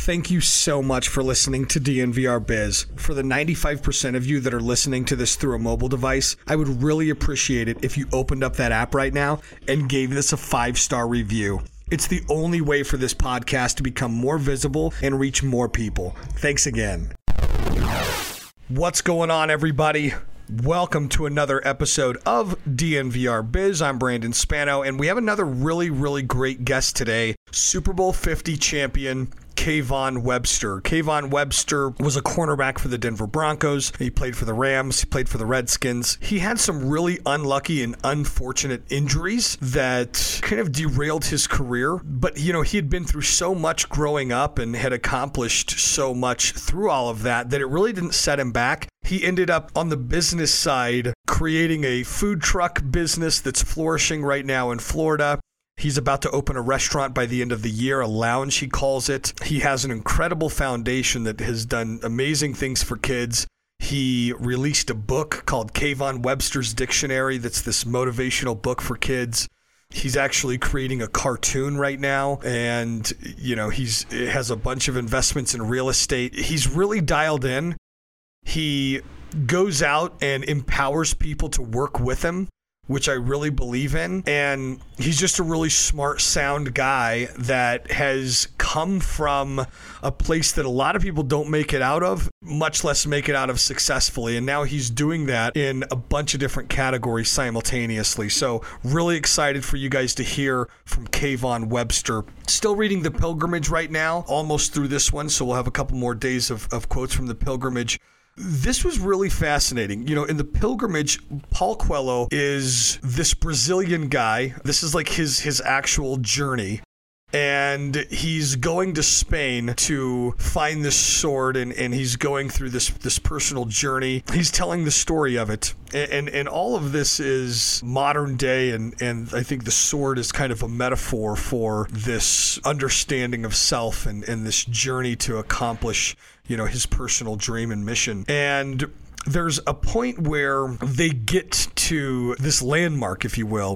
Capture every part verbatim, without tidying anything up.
Thank you so much for listening to D N V R Biz. For the ninety-five percent of you that are listening to this through a mobile device, I would really appreciate it if you opened up that app right now and gave this a five-star review. It's the only way for this podcast to become more visible and reach more people. Thanks again. What's going on, everybody? Welcome to another episode of D N V R Biz. I'm Brandon Spano, and we have another really, really great guest today. Super Bowl fifty champion, Kayvon Webster. Kayvon Webster was a cornerback for the Denver Broncos. He played for the Rams. He played for the Redskins. He had some really unlucky and unfortunate injuries that kind of derailed his career. But, you know, he had been through so much growing up and had accomplished so much through all of that that it really didn't set him back. He ended up on the business side creating a food truck business that's flourishing right now in Florida. He's about to open a restaurant by the end of the year, a lounge he calls it. He has an incredible foundation that has done amazing things for kids. He released a book called Kayvon Webster's Dictionary that's this motivational book for kids. He's actually creating a cartoon right now, and you know he's has a bunch of investments in real estate. He's really dialed in. He goes out and empowers people to work with him, which I really believe in. And he's just a really smart, sound guy that has come from a place that a lot of people don't make it out of, much less make it out of successfully. And now he's doing that in a bunch of different categories simultaneously. So really excited for you guys to hear from Kayvon Webster. Still reading The Pilgrimage right now, almost through this one. So we'll have a couple more days of, of quotes from The Pilgrimage. This was really fascinating. You know, in The Pilgrimage, Paul Coelho is this Brazilian guy. This is like his his actual journey. And he's going to Spain to find this sword, and, and he's going through this this personal journey. He's telling the story of it. And, and and all of this is modern day, and, and I think the sword is kind of a metaphor for this understanding of self and, and this journey to accomplish, you know, his personal dream and mission. And there's a point where they get to this landmark, if you will,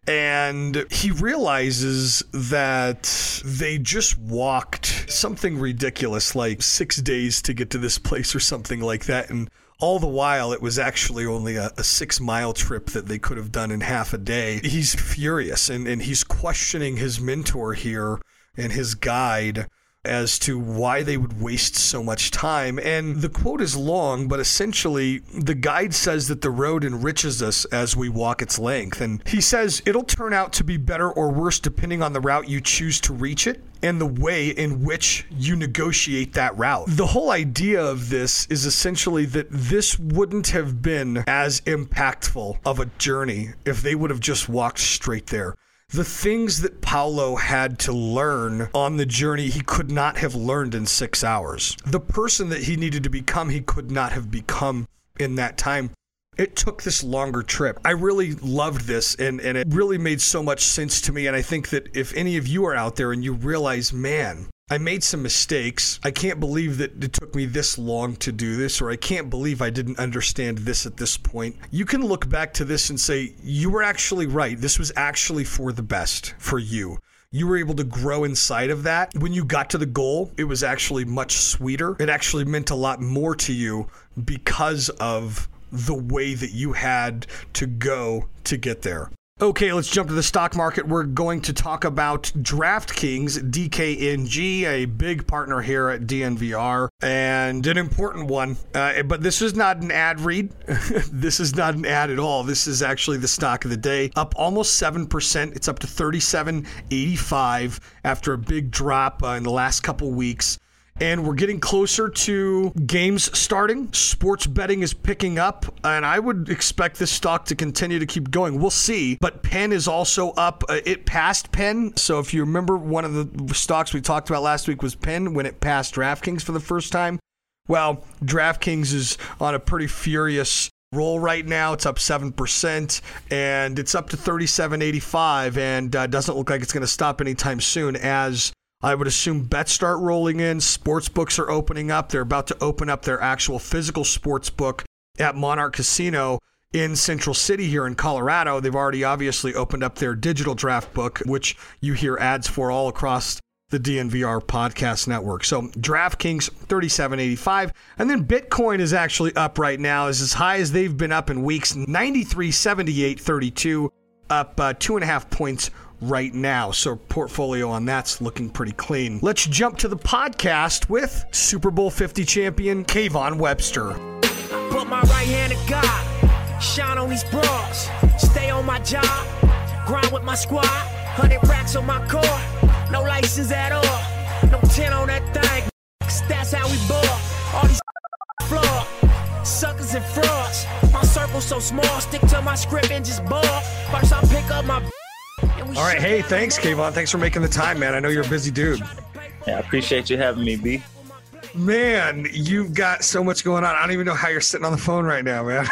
and he realizes that they just walked something ridiculous, like six days to get to this place or something like that. And all the while, it was actually only a, a six-mile trip that they could have done in half a day. He's furious, and, and he's questioning his mentor here and his guide as to why they would waste so much time. And the quote is long, but essentially the guide says that the road enriches us as we walk its length. And he says it'll turn out to be better or worse depending on the route you choose to reach it and the way in which you negotiate that route. The whole idea of this is essentially that this wouldn't have been as impactful of a journey if they would have just walked straight there. The things that Paulo had to learn on the journey, he could not have learned in six hours. The person that he needed to become, he could not have become in that time. It took this longer trip. I really loved this, and, and it really made so much sense to me. And I think that if any of you are out there and you realize, man, I made some mistakes. I can't believe that it took me this long to do this, or I can't believe I didn't understand this at this point. You can look back to this and say, you were actually right. This was actually for the best for you. You were able to grow inside of that. When you got to the goal, it was actually much sweeter. It actually meant a lot more to you because of the way that you had to go to get there. Okay, let's jump to the stock market. We're going to talk about DraftKings, D K N G, a big partner here at D N V R, and an important one. Uh, but this is not an ad read. This is not an ad at all. This is actually the stock of the day. Up almost seven percent. It's up to thirty-seven eighty-five after a big drop uh, in the last couple weeks. And we're getting closer to games starting. Sports betting is picking up, and I would expect this stock to continue to keep going. We'll see. But Penn is also up. Uh, it passed Penn. So if you remember, one of the stocks we talked about last week was Penn when it passed DraftKings for the first time. Well, DraftKings is on a pretty furious roll right now. It's up seven percent, and it's up to thirty-seven eighty-five, and uh, doesn't look like it's going to stop anytime soon, as I would assume bets start rolling in. Sports books are opening up. They're about to open up their actual physical sports book at Monarch Casino in Central City here in Colorado. They've already obviously opened up their digital draft book, which you hear ads for all across the D N V R Podcast Network. So DraftKings thirty-seven eighty-five, and then Bitcoin is actually up right now, is as high as they've been up in weeks, ninety-three seventy-eight thirty-two, up uh, two and a half points right now. So portfolio on that's looking pretty clean. Let's jump to the podcast with Super Bowl fifty champion Kayvon Webster. Put my right hand to God, shine on these broads, stay on my job, grind with my squad, one hundred racks on my core, no license at all, no ten on that thing, that's how we ball, all these flawed, suckers and frauds, my circle so small, stick to my script and just ball, first I pick up my... All right, hey, thanks, Kayvon, thanks for making the time, man, I know you're a busy dude. Yeah, I appreciate you having me, B. Man, you've got so much going on. I don't even know how you're sitting on the phone right now, man.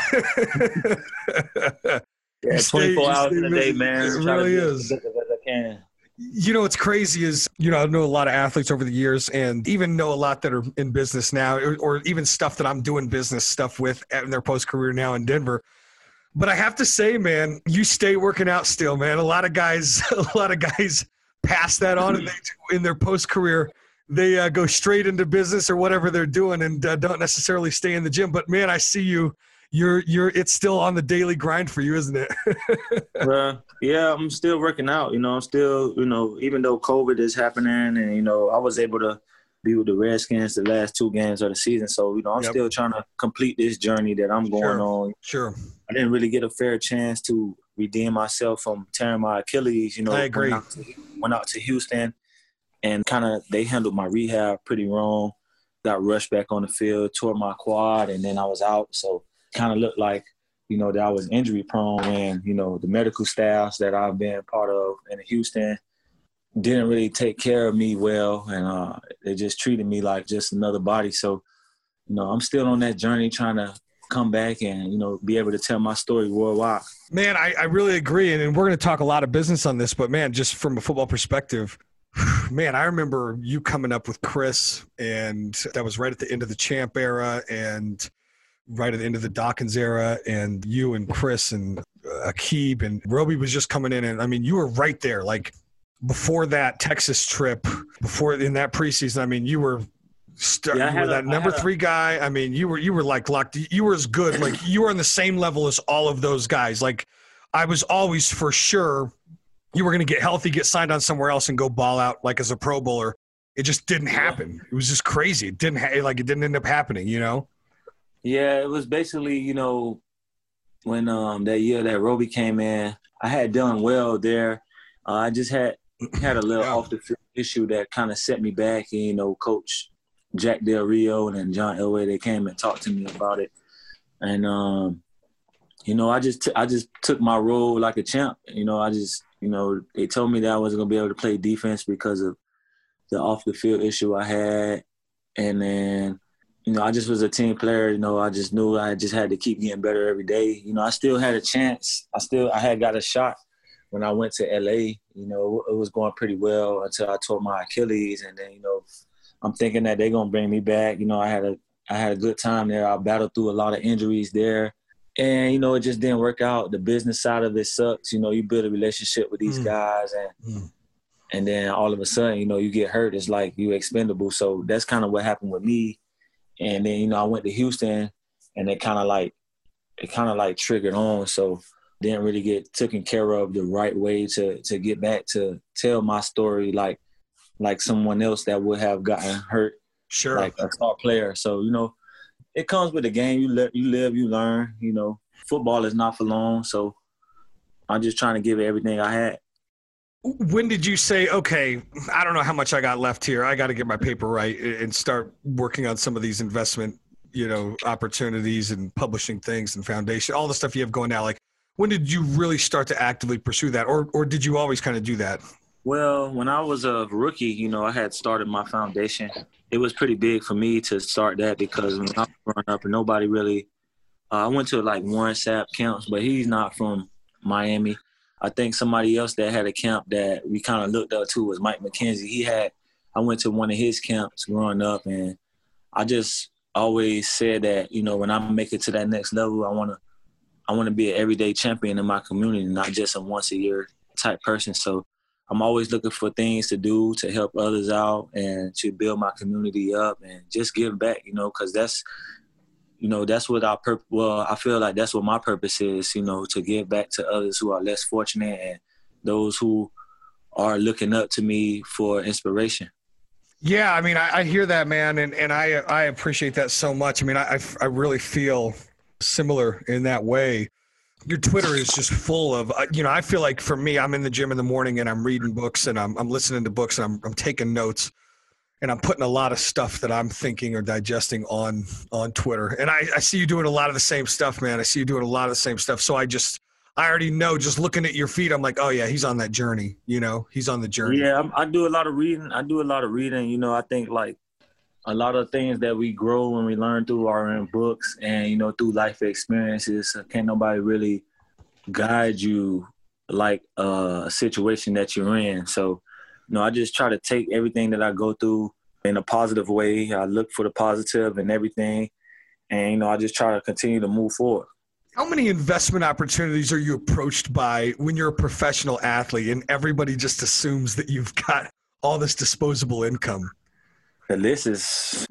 Yeah, stay, twenty-four hours in a day, busy. man. It Try really to is. do as best as I can. You know, what's crazy is, you know, I know a lot of athletes over the years and even know a lot that are in business now, or, or even stuff that I'm doing business stuff with in their post-career now in Denver. But I have to say, man, you stay working out still, man. A lot of guys, a lot of guys pass that on and they, in their post-career. They uh, go straight into business or whatever they're doing and uh, don't necessarily stay in the gym. But man, I see you. You're you're. It's still on the daily grind for you, isn't it? uh, yeah, I'm still working out. You know, I'm still. You know, even though COVID is happening, and you know, I was able to be with the Redskins the last two games of the season. So you know, I'm Yep. still trying to complete this journey that I'm going Sure. on. Sure. I didn't really get a fair chance to redeem myself from tearing my Achilles. You know, I agree. Went out to, went out to Houston. And kind of they handled my rehab pretty wrong. Got rushed back on the field, tore my quad, and then I was out. So kind of looked like, you know, that I was injury prone when, you know, the medical staffs that I've been part of in Houston didn't really take care of me well. And uh, they just treated me like just another body. So, you know, I'm still on that journey trying to come back and, you know, be able to tell my story worldwide. Man, I, I really agree. And, and we're going to talk a lot of business on this, but man, just from a football perspective, man, I remember you coming up with Chris, and that was right at the end of the Champ era and right at the end of the Dawkins era, and you and Chris and uh, Aqib and Roby was just coming in. And I mean, you were right there, like before that Texas trip, before in that preseason. I mean, you were, st- Yeah, I you were had that a- I number had a- three guy. I mean, you were, you were like locked. You were as good. Like you were on the same level as all of those guys. Like I was always for sure you were going to get healthy, get signed on somewhere else, and go ball out like as a Pro Bowler. It just didn't happen. It was just crazy. It didn't ha- like it didn't end up happening. You know? Yeah, it was basically, you know, when um, that year that Roby came in, I had done well there. Uh, I just had had a little Yeah. off the field issue that kind of set me back. And, you know, Coach Jack Del Rio and John Elway, they came and talked to me about it. And um, you know, I just t- I just took my role like a champ. You know, I just you know they told me that I wasn't gonna be able to play defense because of the off the field issue I had, and then. You know, I just was a team player. You know, I just knew I just had to keep getting better every day. You know, I still had a chance. I still, I had got a shot when I went to L A. You know, it was going pretty well until I tore my Achilles. And then, you know, I'm thinking that they're going to bring me back. You know, I had a, I had a good time there. I battled through a lot of injuries there. And, you know, it just didn't work out. The business side of it sucks. You know, you build a relationship with these mm. guys and mm. and then all of a sudden, you know, you get hurt. It's like you expendable. So that's kind of what happened with me. And then, you know, I went to Houston and it kind of like, it kind of like triggered on. So didn't really get taken care of the right way to, to get back to tell my story like, like someone else that would have gotten hurt. Sure. Like a star player. So, you know, it comes with the game. You live, you live, you learn, you know, football is not for long. So I'm just trying to give it everything I had. When did you say, okay, I don't know how much I got left here. I got to get my paper right and start working on some of these investment, you know, opportunities and publishing things and foundation, all the stuff you have going now. Like, when did you really start to actively pursue that? Or, or did you always kind of do that? Well, when I was a rookie, you know, I had started my foundation. It was pretty big for me to start that because when I was growing up and nobody really, uh, I went to like Warren Sapp camps, but he's not from Miami. I think somebody else that had a camp that we kind of looked up to was Mike McKenzie. He had, I went to one of his camps growing up, and I just always said that, you know, when I make it to that next level, I want to, I want to be an everyday champion in my community, not just a once a year type person. So I'm always looking for things to do to help others out and to build my community up and just give back, you know, because that's, you know, that's what our purpose, well, I feel like that's what my purpose is, you know, to give back to others who are less fortunate and those who are looking up to me for inspiration. Yeah, I mean, I, I hear that, man, and, and I I appreciate that so much. I mean, I, I really feel similar in that way. Your Twitter is just full of, uh, you know, I feel like for me, I'm in the gym in the morning and I'm reading books and I'm I'm listening to books and I'm I'm taking notes and I'm putting a lot of stuff that I'm thinking or digesting on on Twitter. And I, I see you doing a lot of the same stuff, man. I see you doing a lot of the same stuff. So I just I already know, just looking at your feed, I'm like, oh yeah, he's on that journey. You know, he's on the journey. Yeah, I'm, I do a lot of reading. I do a lot of reading. You know, I think like a lot of things that we grow and we learn through are in books and, you know, through life experiences. Can't nobody really guide you like uh, a situation that you're in. So, you know, I just try to take everything that I go through in a positive way. I look for the positive and everything. And, you know, I just try to continue to move forward. How many investment opportunities are you approached by when you're a professional athlete and everybody just assumes that you've got all this disposable income? The list is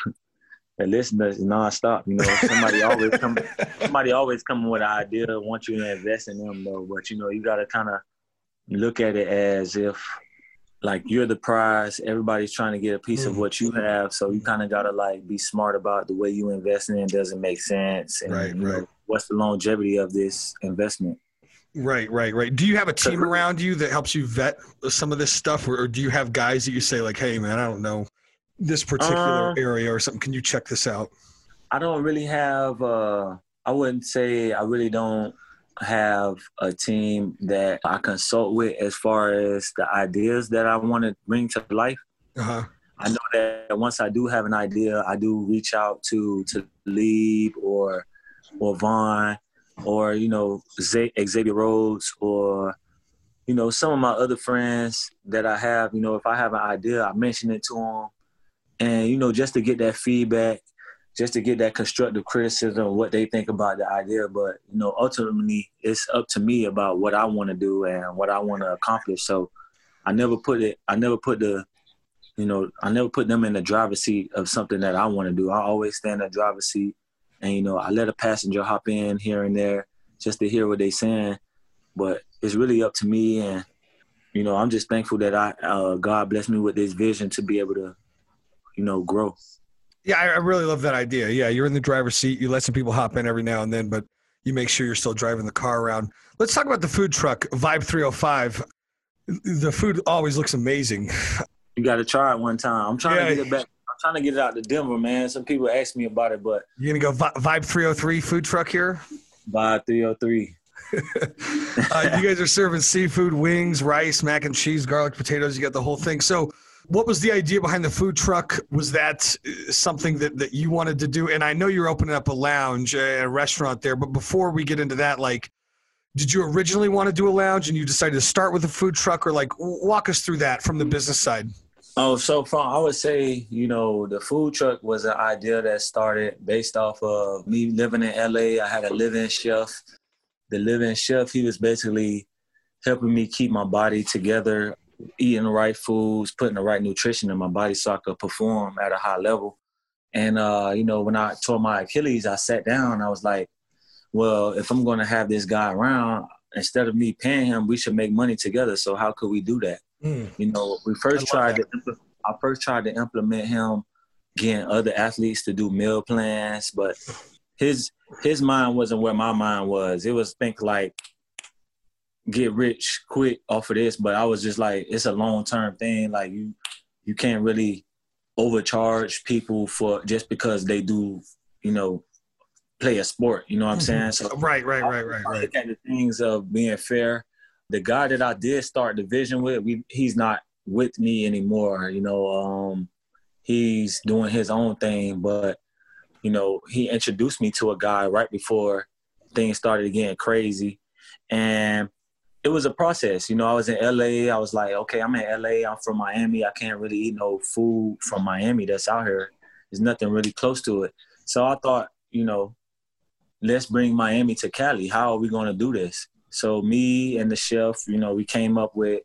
the list is nonstop. You know, somebody always come somebody always come with an idea, want you to invest in them though. But you know, you gotta kinda look at it as if like you're the prize, everybody's trying to get a piece mm. of what you have. So you kinda gotta like be smart about the way you invest in it. Doesn't make sense. And right, you right. know, what's the longevity of this investment? Right, right, right. Do you have a team around you that helps you vet some of this stuff, or, or do you have guys that you say like, "Hey, man, I don't know this particular um, area or something. Can you check this out?" I don't really have. Uh, I wouldn't say I really don't have a team that I consult with as far as the ideas that I want to bring to life. Uh-huh. I know that once I do have an idea, I do reach out to to Lieb or or Vaughn, or, you know, Xavier Rhodes, or, you know, some of my other friends that I have. You know, if I have an idea, I mention it to them. And, you know, just to get that feedback, just to get that constructive criticism of what they think about the idea. But, you know, ultimately, it's up to me about what I want to do and what I want to accomplish. So I never put it, I never put the, you know, I never put them in the driver's seat of something that I want to do. I always stand in the driver's seat. And, you know, I let a passenger hop in here and there just to hear what they're saying. But it's really up to me. And, you know, I'm just thankful that I uh, God blessed me with this vision to be able to, you know, grow. Yeah, I, I really love that idea. Yeah, you're in the driver's seat. You let some people hop in every now and then, but you make sure you're still driving the car around. Let's talk about the food truck, Vibe three oh five. The food always looks amazing. You got to try it one time. I'm trying yeah. to get it back. I'm trying to get it out to Denver, man. Some people ask me about it, but you gonna go Vi- Vibe three oh three food truck here? Vibe three oh three. uh, you guys are serving seafood, wings, rice, mac and cheese, garlic, potatoes. You got the whole thing. So, what was the idea behind the food truck? Was that something that, that you wanted to do? And I know you're opening up a lounge, a restaurant there. But before we get into that, like, did you originally want to do a lounge and you decided to start with a food truck, or like walk us through that from the business side? Oh, so from, I would say, you know, the food truck was an idea that started based off of me living in L A. I had a live-in chef. The live-in chef, he was basically helping me keep my body together, eating the right foods, putting the right nutrition in my body so I could perform at a high level. And, uh, you know, when I tore my Achilles, I sat down. I was like, well, if I'm going to have this guy around, instead of me paying him, we should make money together. So how could we do that? Mm. You know, we first tried that. to, I first tried to implement him getting other athletes to do meal plans, but his his mind wasn't where my mind was. It was think like get rich quick off of this, but I was just like, it's a long term thing. Like you you can't really overcharge people for just because they do, you know, play a sport. You know what I'm saying? So right, right, right, right, right. Look at the things of being fair. The guy that I did start the vision with, we, he's not with me anymore. You know, um, he's doing his own thing, but, you know, he introduced me to a guy right before things started getting crazy. And it was a process. You know, I was in L A. I was like, okay, I'm in L A. I'm from Miami. I can't really eat no food from Miami that's out here. There's nothing really close to it. So I thought, you know, let's bring Miami to Cali. How are we going to do this? So me and the chef, you know, we came up with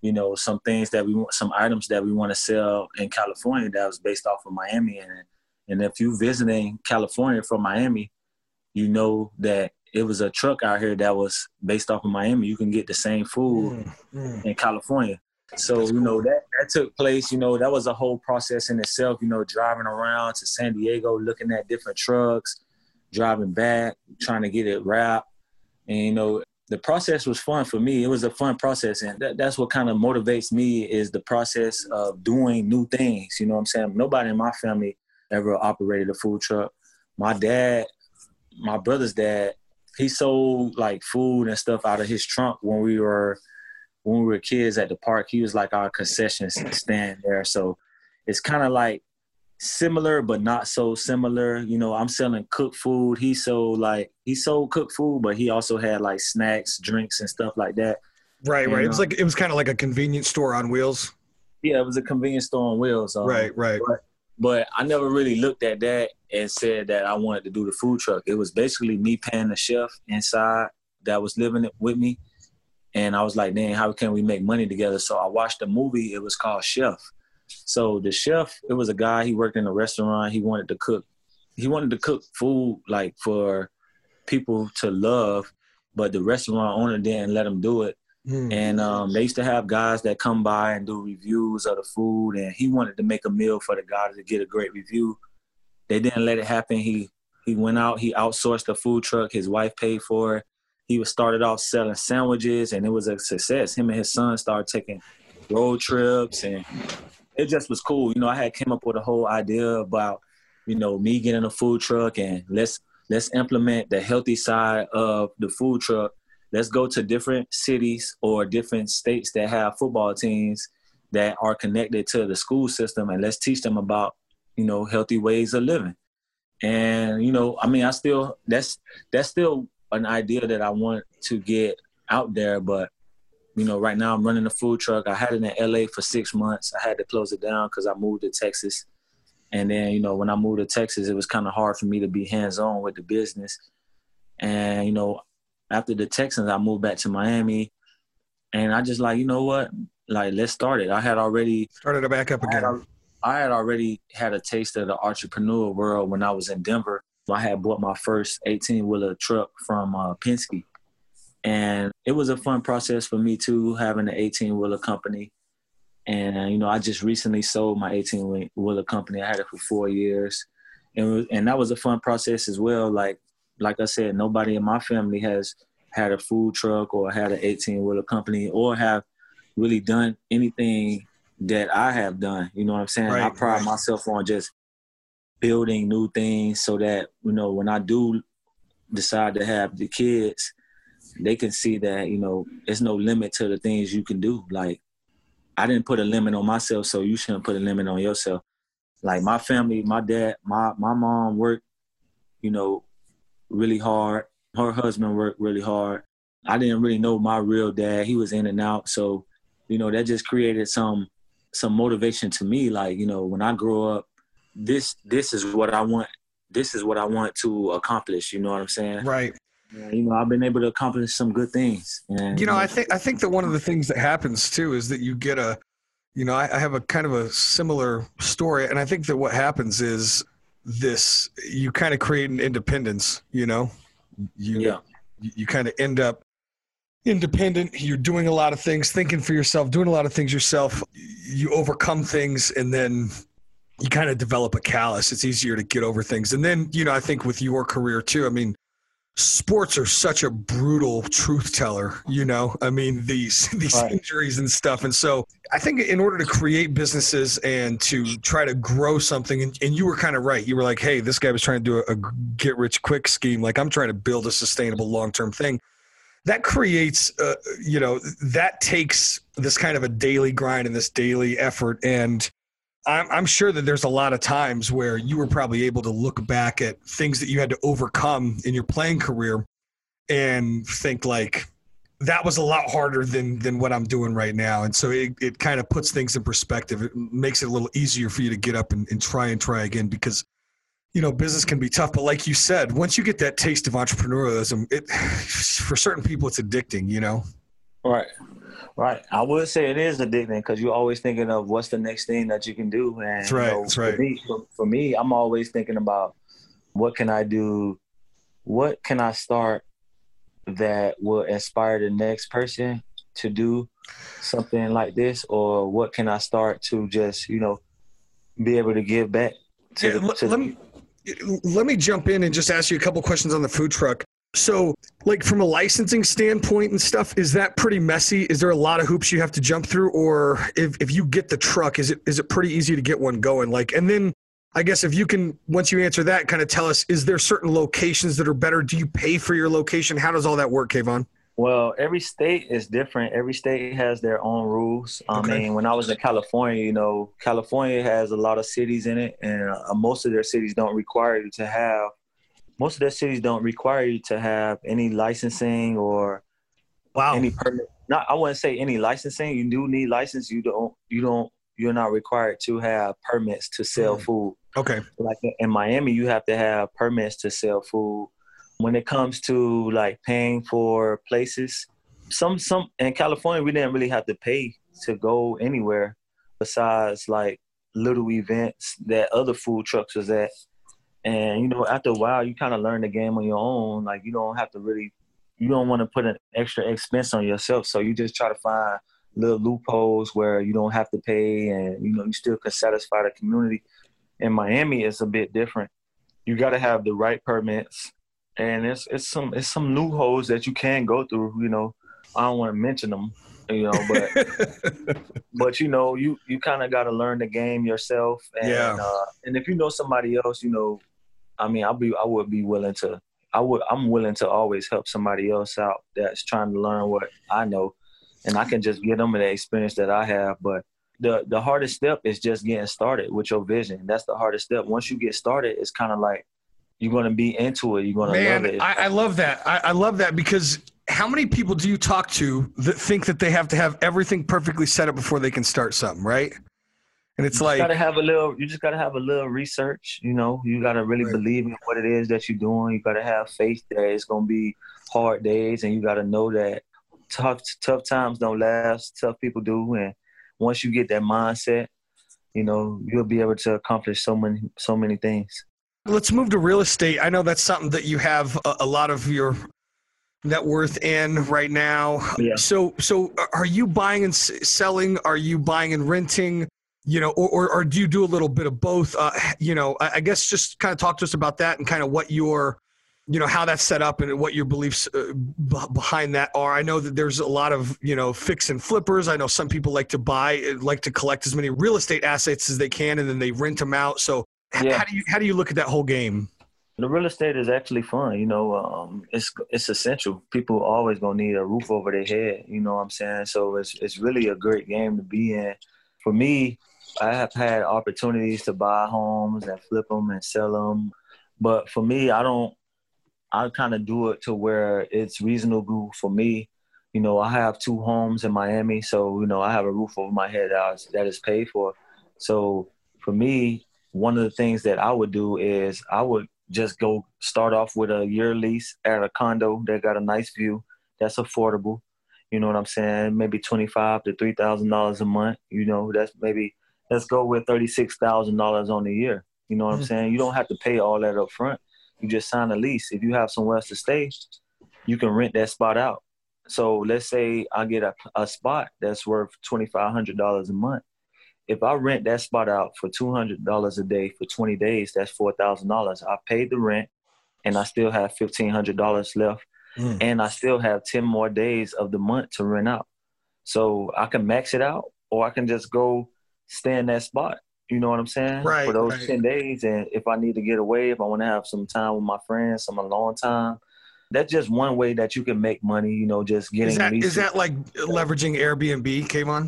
you know, some things that we want, some items that we want to sell in California that was based off of Miami. And, and if you visiting California from Miami, you know that it was a truck out here that was based off of Miami. You can get the same food mm, mm. in California. So, That's you know, cool. that, that took place, you know, that was a whole process in itself, you know, driving around to San Diego, looking at different trucks, driving back, trying to get it wrapped. And, you know, the process was fun for me. It was a fun process. And that, that's what kind of motivates me is the process of doing new things. You know what I'm saying? Nobody in my family ever operated a food truck. My dad, my brother's dad, he sold like food and stuff out of his trunk when we were when we were kids at the park. He was like our concession stand there. So it's kind of like similar, but not so similar. You know, I'm selling cooked food. He sold like he sold cooked food, but he also had like snacks, drinks, and stuff like that. Right, and, right. It was like it was kind of like a convenience store on wheels. Yeah, it was a convenience store on wheels. Um, right, right. But, but I never really looked at that and said that I wanted to do the food truck. It was basically me paying the chef inside that was living it with me. And I was like, dang, how can we make money together? So I watched a movie. It was called Chef. So the chef, it was a guy, he worked in a restaurant. He wanted to cook. He wanted to cook food like for people to love, but the restaurant owner didn't let him do it. Mm. And um, they used to have guys that come by and do reviews of the food. And he wanted to make a meal for the guy to get a great review. They didn't let it happen. He he went out, he outsourced the food truck. His wife paid for it. He was started off selling sandwiches, and it was a success. Him and his son started taking road trips, and it just was cool. You know, I had came up with a whole idea about, you know, me getting a food truck, and let's let's implement the healthy side of the food truck. Let's go to different cities or different states that have football teams that are connected to the school system, and let's teach them about, you know, healthy ways of living. And, you know, I mean, I still, that's, that's still an idea that I want to get out there. But, you know, right now I'm running a food truck. I had it in L A for six months. I had to close it down because I moved to Texas. And then, you know, when I moved to Texas, it was kind of hard for me to be hands-on with the business. And, you know, after the Texans, I moved back to Miami. And I just like, you know what? Like, let's start it. I had already started it back up again. I had, I had already had a taste of the entrepreneur world when I was in Denver. I had bought my first eighteen-wheeler truck from uh, Penske. And it was a fun process for me, too, having an eighteen-wheeler company. And, uh, you know, I just recently sold my eighteen-wheeler company. I had it for four years. And, it was, and that was a fun process as well. Like, like I said, nobody in my family has had a food truck or had an eighteen-wheeler company or have really done anything that I have done. You know what I'm saying? Right, I pride right. myself on just building new things so that, you know, when I do decide to have the kids, they can see that, you know, there's no limit to the things you can do. Like, I didn't put a limit on myself, so you shouldn't put a limit on yourself. Like, my family, my dad, my, my mom worked, you know, really hard. Her husband worked really hard. I didn't really know my real dad. He was in and out. So, you know, that just created some some motivation to me. Like, you know, when I grow up, this this is what I want. This is what I want to accomplish. You know what I'm saying? Right. And, you know, I've been able to accomplish some good things. And, you know, I think I think that one of the things that happens too is that you get a, you know, I, I have a kind of a similar story, and I think that what happens is this: you kind of create an independence. You know, you yeah. you, you kind of end up independent. You're doing a lot of things, thinking for yourself, doing a lot of things yourself. You overcome things, and then you kind of develop a callus. It's easier to get over things. And then, you know, I think with your career too, I mean, sports are such a brutal truth teller, you know, I mean, these, these right. injuries and stuff. And so I think in order to create businesses and to try to grow something, and, and you were kind of right. You were like, hey, this guy was trying to do a, a get rich quick scheme. Like, I'm trying to build a sustainable long-term thing. That creates, uh, you know, that takes this kind of a daily grind and this daily effort. And I'm, I'm sure that there's a lot of times where you were probably able to look back at things that you had to overcome in your playing career and think like, that was a lot harder than than what I'm doing right now. And so it, it kind of puts things in perspective. It makes it a little easier for you to get up and, and try and try again, because, you know, business can be tough. But like you said, once you get that taste of entrepreneurialism, it for certain people, it's addicting, you know? Right. Right. I would say it is addicting because you're always thinking of what's the next thing that you can do. And That's right. You know, That's right. For me, for, for me, I'm always thinking about what can I do? What can I start that will inspire the next person to do something like this? Or what can I start to just, you know, be able to give back to Yeah, the, let, to let me let me jump in and just ask you a couple questions on the food truck. So, like from a licensing standpoint and stuff, is that pretty messy? Is there a lot of hoops you have to jump through, or if, if you get the truck, is it is it pretty easy to get one going? Like, and then I guess if you can, once you answer that, kind of tell us, is there certain locations that are better? Do you pay for your location? How does all that work, Kayvon? Well, every state is different. Every state has their own rules. I Okay. mean, when I was in California, you know, California has a lot of cities in it, and uh, most of their cities don't require you to have most of their cities don't require you to have any licensing or Wow. any permit. Not, I wouldn't say any licensing. You do need license. You don't. You don't. You're not required to have permits to sell Mm. food. Okay. Like in Miami, you have to have permits to sell food. When it comes to like paying for places, some some in California, we didn't really have to pay to go anywhere besides like little events that other food trucks was at. And, you know, after a while, you kind of learn the game on your own. Like, you don't have to really, you don't want to put an extra expense on yourself. So you just try to find little loopholes where you don't have to pay and, you know, you still can satisfy the community. In Miami, it's a bit different. You got to have the right permits. And it's it's some it's some loopholes that you can go through, you know. I don't want to mention them, you know, but but you know, you you kind of got to learn the game yourself. And Yeah. uh, and if you know somebody else, you know, I mean, I'll be, I would be willing to, I would, I'm willing to always help somebody else out that's trying to learn what I know, and I can just give them the experience that I have. But the the hardest step is just getting started with your vision. That's the hardest step. Once you get started, it's kind of like you're going to be into it. You're going to love Man, it. I, I love that. I, I love that because how many people do you talk to that think that they have to have everything perfectly set up before they can start something, right? And it's you like, just gotta have a little. You just gotta have a little research. You know, you gotta really Right. believe in what it is that you're doing. You gotta have faith that it's gonna be hard days, and you gotta know that tough tough times don't last. Tough people do, and once you get that mindset, you know, you'll be able to accomplish so many so many things. let's move to real estate. I know that's something that you have a, a lot of your net worth in right now. Yeah. So, so are you buying and s- selling? Are you buying and renting? You know, or, or, or do you do a little bit of both? Uh, you know, I, I guess just kind of talk to us about that and kind of what your, you know, how that's set up and what your beliefs uh, b- behind that are. I know that there's a lot of, you know, fix and flippers. I know some people like to buy, like to collect as many real estate assets as they can, and then they rent them out. So h- Yeah. how do you, how do you look at that whole game? The real estate is actually fun, you know. Um, it's it's essential. People always gonna need a roof over their head, you know what I'm saying? So it's it's really a great game to be in. For me, I have had opportunities to buy homes and flip them and sell them, but for me, I don't. I kind of do it to where it's reasonable for me. You know, I have two homes in Miami, so you know I have a roof over my head that is, that is paid for. So for me, one of the things that I would do is I would just go start off with a year lease at a condo that got a nice view, that's affordable. You know what I'm saying? Maybe twenty-five to three thousand dollars a month. You know, that's maybe let's go with thirty-six thousand dollars on the year. You know what I'm saying? You don't have to pay all that up front. You just sign a lease. If you have somewhere else to stay, you can rent that spot out. So let's say I get a, a spot that's worth twenty-five hundred dollars a month. If I rent that spot out for two hundred dollars a day for twenty days, that's four thousand dollars. I paid the rent, and I still have fifteen hundred dollars left, Mm. and I still have ten more days of the month to rent out. So I can max it out, or I can just go stay in that spot. You know what I'm saying? Right, For those right. ten days. And if I need to get away, if I want to have some time with my friends, some alone time, that's just one way that you can make money, you know, just getting Is that leases. is that like leveraging Airbnb, Kayvon?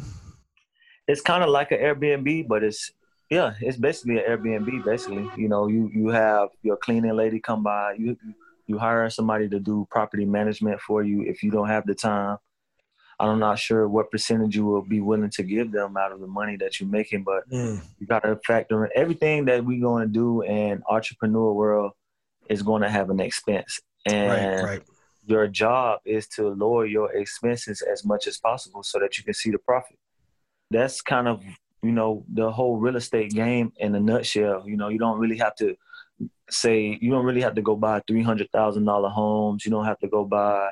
It's kind of like an Airbnb, but it's, yeah, it's basically an Airbnb, basically. You know, you, you have your cleaning lady come by, you, you hire somebody to do property management for you if you don't have the time. I'm not sure what percentage you will be willing to give them out of the money that you're making, but Mm. you got to factor in everything that we're going to do in entrepreneur world is going to have an expense. And Right, right. your job is to lower your expenses as much as possible so that you can see the profit. That's kind of, you know, the whole real estate game in a nutshell. You know, you don't really have to say, you don't really have to go buy three hundred thousand dollars homes. You don't have to go buy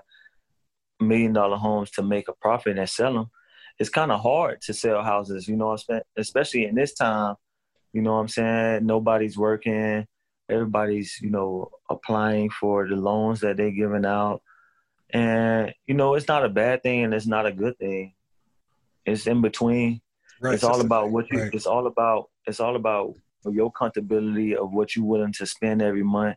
million dollar homes to make a profit and sell them. It's kind of hard to sell houses, you know what I'm saying? Especially in this time, you know what I'm saying? Nobody's working. Everybody's, you know, applying for the loans that they're giving out. And, you know, it's not a bad thing and it's not a good thing. It's in between. Right. It's all about what you, right. it's all about, it's all about your comfortability of what you're willing to spend every month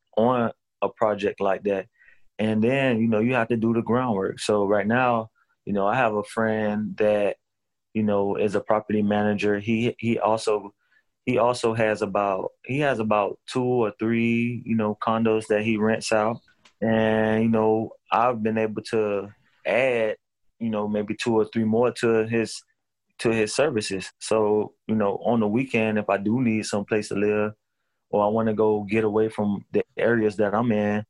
on a project like that. And then, you know, you have to do the groundwork. So right now, you know, I have a friend that, you know, is a property manager. He, he also, he also has about, he has about two or three, you know, condos that he rents out. And, you know, I've been able to add, you know, maybe two or three more to his, to his services. So, you know, on the weekend, if I do need some place to live or I want to go get away from the areas that I'm in,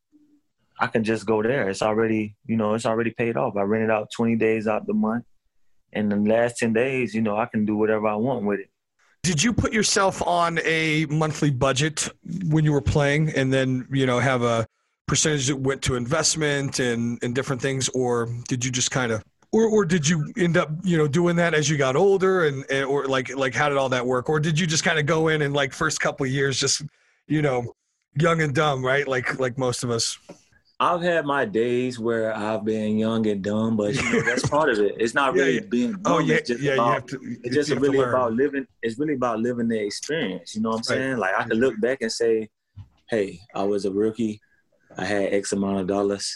I can just go there. It's already, you know, it's already paid off. I rented out twenty days out the month. And the last ten days, you know, I can do whatever I want with it. Did you put yourself on a monthly budget when you were playing and then, you know, have a percentage that went to investment and, and different things? Or did you just kind of, or, or did you end up, you know, doing that as you got older and, and or like, like how did all that work? Or did you just kind of go in and like first couple of years, just, you know, young and dumb, right? Like, like most of us. I've had my days where I've been young and dumb, but you know, that's part of it. It's not really yeah, yeah. being dumb. Oh, yeah, it's just yeah, about, you have to, it's just really about living. It's really about living the experience. You know what I'm saying? Right. Like I can look back and say, hey, I was a rookie. I had X amount of dollars.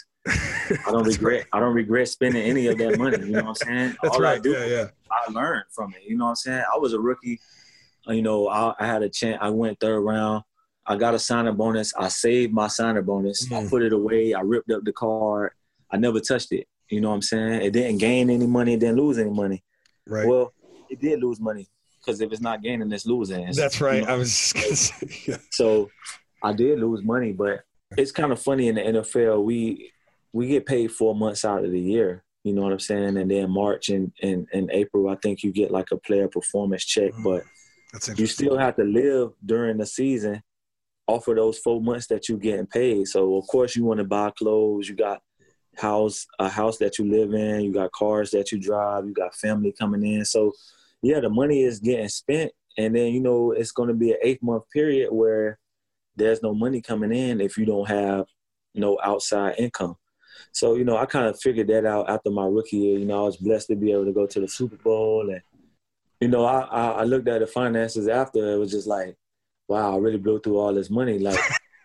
I don't regret. Right. I don't regret spending any of that money. You know what I'm saying? That's All right. I do, yeah, yeah. I learned from it. You know what I'm saying? I was a rookie. You know, I, I had a chance. I went third round. I got a signing bonus. I saved my signing bonus. Mm. I put it away. I ripped up the card. I never touched it. You know what I'm saying? It didn't gain any money. It didn't lose any money. Right. Well, it did lose money because if it's not gaining, it's losing. It's, That's right. You know? I was just going to say. Yeah. So I did lose money, but it's kind of funny in the N F L. We we get paid four months out of the year. You know what I'm saying? And then March and, and, and April, I think you get like a player performance check. Mm. But That's you still have to live during the season off of those four months that you're getting paid. So, of course, you want to buy clothes. You got house a house that you live in. You got cars that you drive. You got family coming in. So, yeah, the money is getting spent. And then, you know, it's going to be an eight-month period where there's no money coming in if you don't have no outside income. So, you know, I kind of figured that out after my rookie year. You know, I was blessed to be able to go to the Super Bowl. And, you know, I, I, I looked at the finances after. It was just like, wow, I really blew through all this money. Like,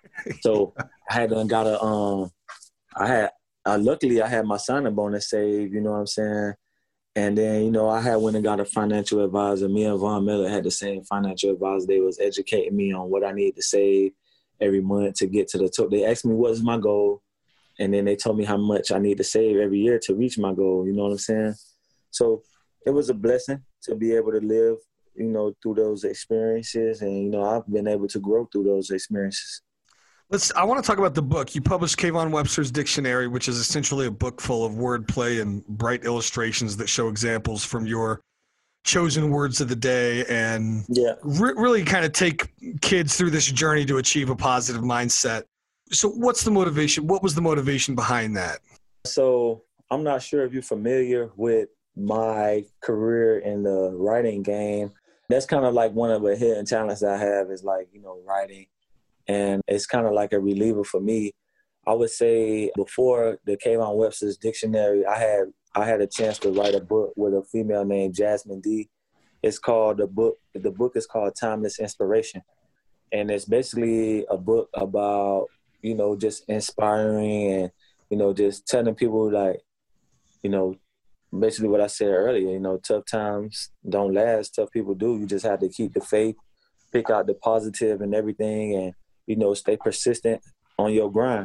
so I had done got a, um, I had, uh, luckily I had my signing bonus saved, you know what I'm saying? And then, you know, I had went and got a financial advisor. Me and Von Miller had the same financial advisor. They was educating me on what I needed to save every month to get to the top. They asked me what is my goal. And then they told me how much I need to save every year to reach my goal. You know what I'm saying? So it was a blessing to be able to live, you know, through those experiences. And, you know, I've been able to grow through those experiences. Let's. I want to talk about the book. You published Kayvon Webster's Dictionary, which is essentially a book full of wordplay and bright illustrations that show examples from your chosen words of the day and yeah. re- really kind of take kids through this journey to achieve a positive mindset. So what's the motivation? What was the motivation behind that? So I'm not sure if you're familiar with my career in the writing game. That's kind of like one of the hidden talents I have is like, you know, writing. And it's kind of like a reliever for me. I would say before the Kayvon Webster's Dictionary, I had I had a chance to write a book with a female named Jasmine D. It's called the book. The book is called Timeless Inspiration. And it's basically a book about, you know, just inspiring and, you know, just telling people like, you know, basically what I said earlier, you know, tough times don't last. Tough people do. You just have to keep the faith, pick out the positive and everything, and, you know, stay persistent on your grind.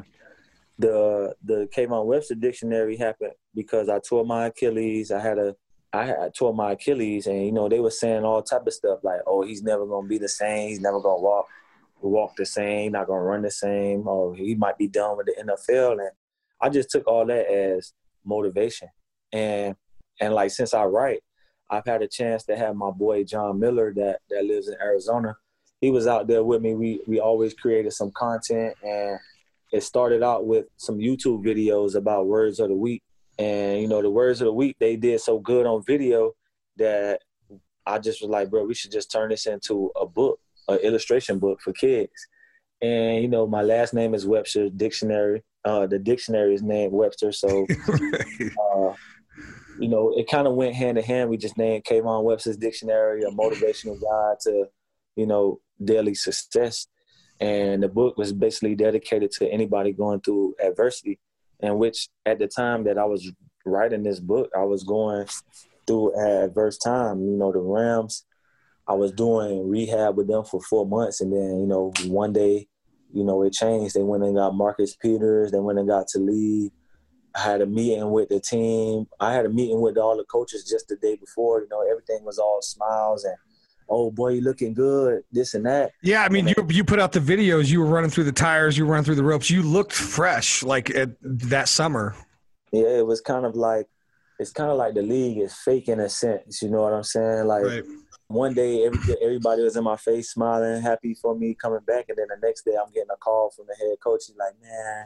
The the Kayvon Webster Dictionary happened because I tore my Achilles. I had a I had I tore my Achilles, and, you know, they were saying all type of stuff like, oh, he's never gonna be the same. He's never gonna walk walk the same. Not gonna run the same. Oh, he might be done with the N F L. And I just took all that as motivation. And and like since I write, I've had a chance to have my boy John Miller that that lives in Arizona. He was out there with me. We we always created some content, and it started out with some YouTube videos about words of the week. And you know, the words of the week, they did so good on video that I just was like, bro, we should just turn this into a book, an illustration book for kids. And you know, my last name is Webster Dictionary. Uh, the dictionary is named Webster, so uh, you know, it kind of went hand in hand. We just named Kayvon Webster's Dictionary a motivational guide to, you know, daily success. And the book was basically dedicated to anybody going through adversity, and which at the time that I was writing this book, I was going through an adverse time. You know, the Rams, I was doing rehab with them for four months. And then, you know, one day, you know, it changed. They went and got Marcus Peters. They went and got Talib. I had a meeting with the team. I had a meeting with all the coaches just the day before. You know, everything was all smiles and, oh, boy, you looking good, this and that. Yeah, I mean, then, you you put out the videos. You were running through the tires. You were running through the ropes. You looked fresh, like at, that summer. Yeah, it was kind of like – it's kind of like the league is fake in a sense. You know what I'm saying? Like, right. One day every, everybody was in my face smiling, happy for me coming back. And then the next day I'm getting a call from the head coach. He's like, man,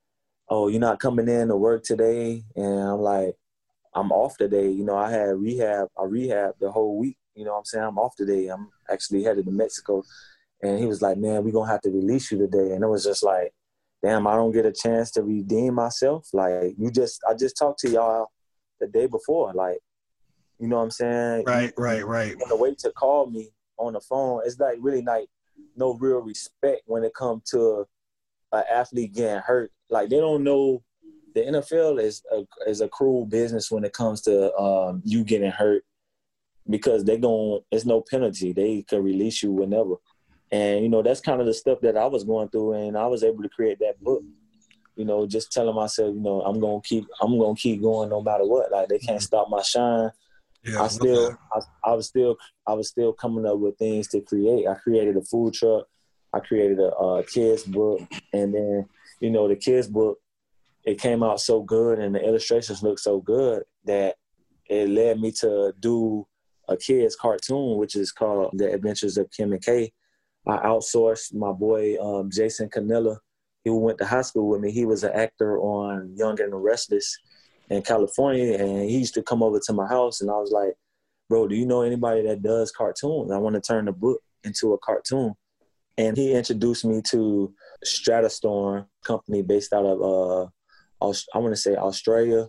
oh, you're not coming in to work today? And I'm like, I'm off today. You know, I had rehab. I rehabbed the whole week. You know what I'm saying? I'm off today. I'm actually headed to Mexico. And he was like, man, we're going to have to release you today. And it was just like, damn, I don't get a chance to redeem myself. Like, you just, I just talked to y'all the day before. Like, you know what I'm saying? Right, you, right, right. The way to call me on the phone, it's like really like no real respect when it comes to an athlete getting hurt. Like, they don't know the N F L is a, is a cruel business when it comes to um, you getting hurt, because they don't, it's no penalty. They can release you whenever. And, you know, that's kind of the stuff that I was going through, and I was able to create that book. You know, just telling myself, you know, I'm gonna keep, I'm gonna keep going no matter what. Like, they can't stop my shine. Yeah, I still, I, I was still, I was still coming up with things to create. I created a food truck. I created a, a kids book, and then, you know, the kids book, it came out so good, and the illustrations looked so good that it led me to do a kids cartoon, which is called The Adventures of Kim and Kay. I outsourced my boy um, Jason Canella. He went to high school with me. He was an actor on Young and the Restless in California, and he used to come over to my house, and I was like, bro, do you know anybody that does cartoons? I want to turn the book into a cartoon. And he introduced me to Stratastorm company based out of, uh, I want to say Australia.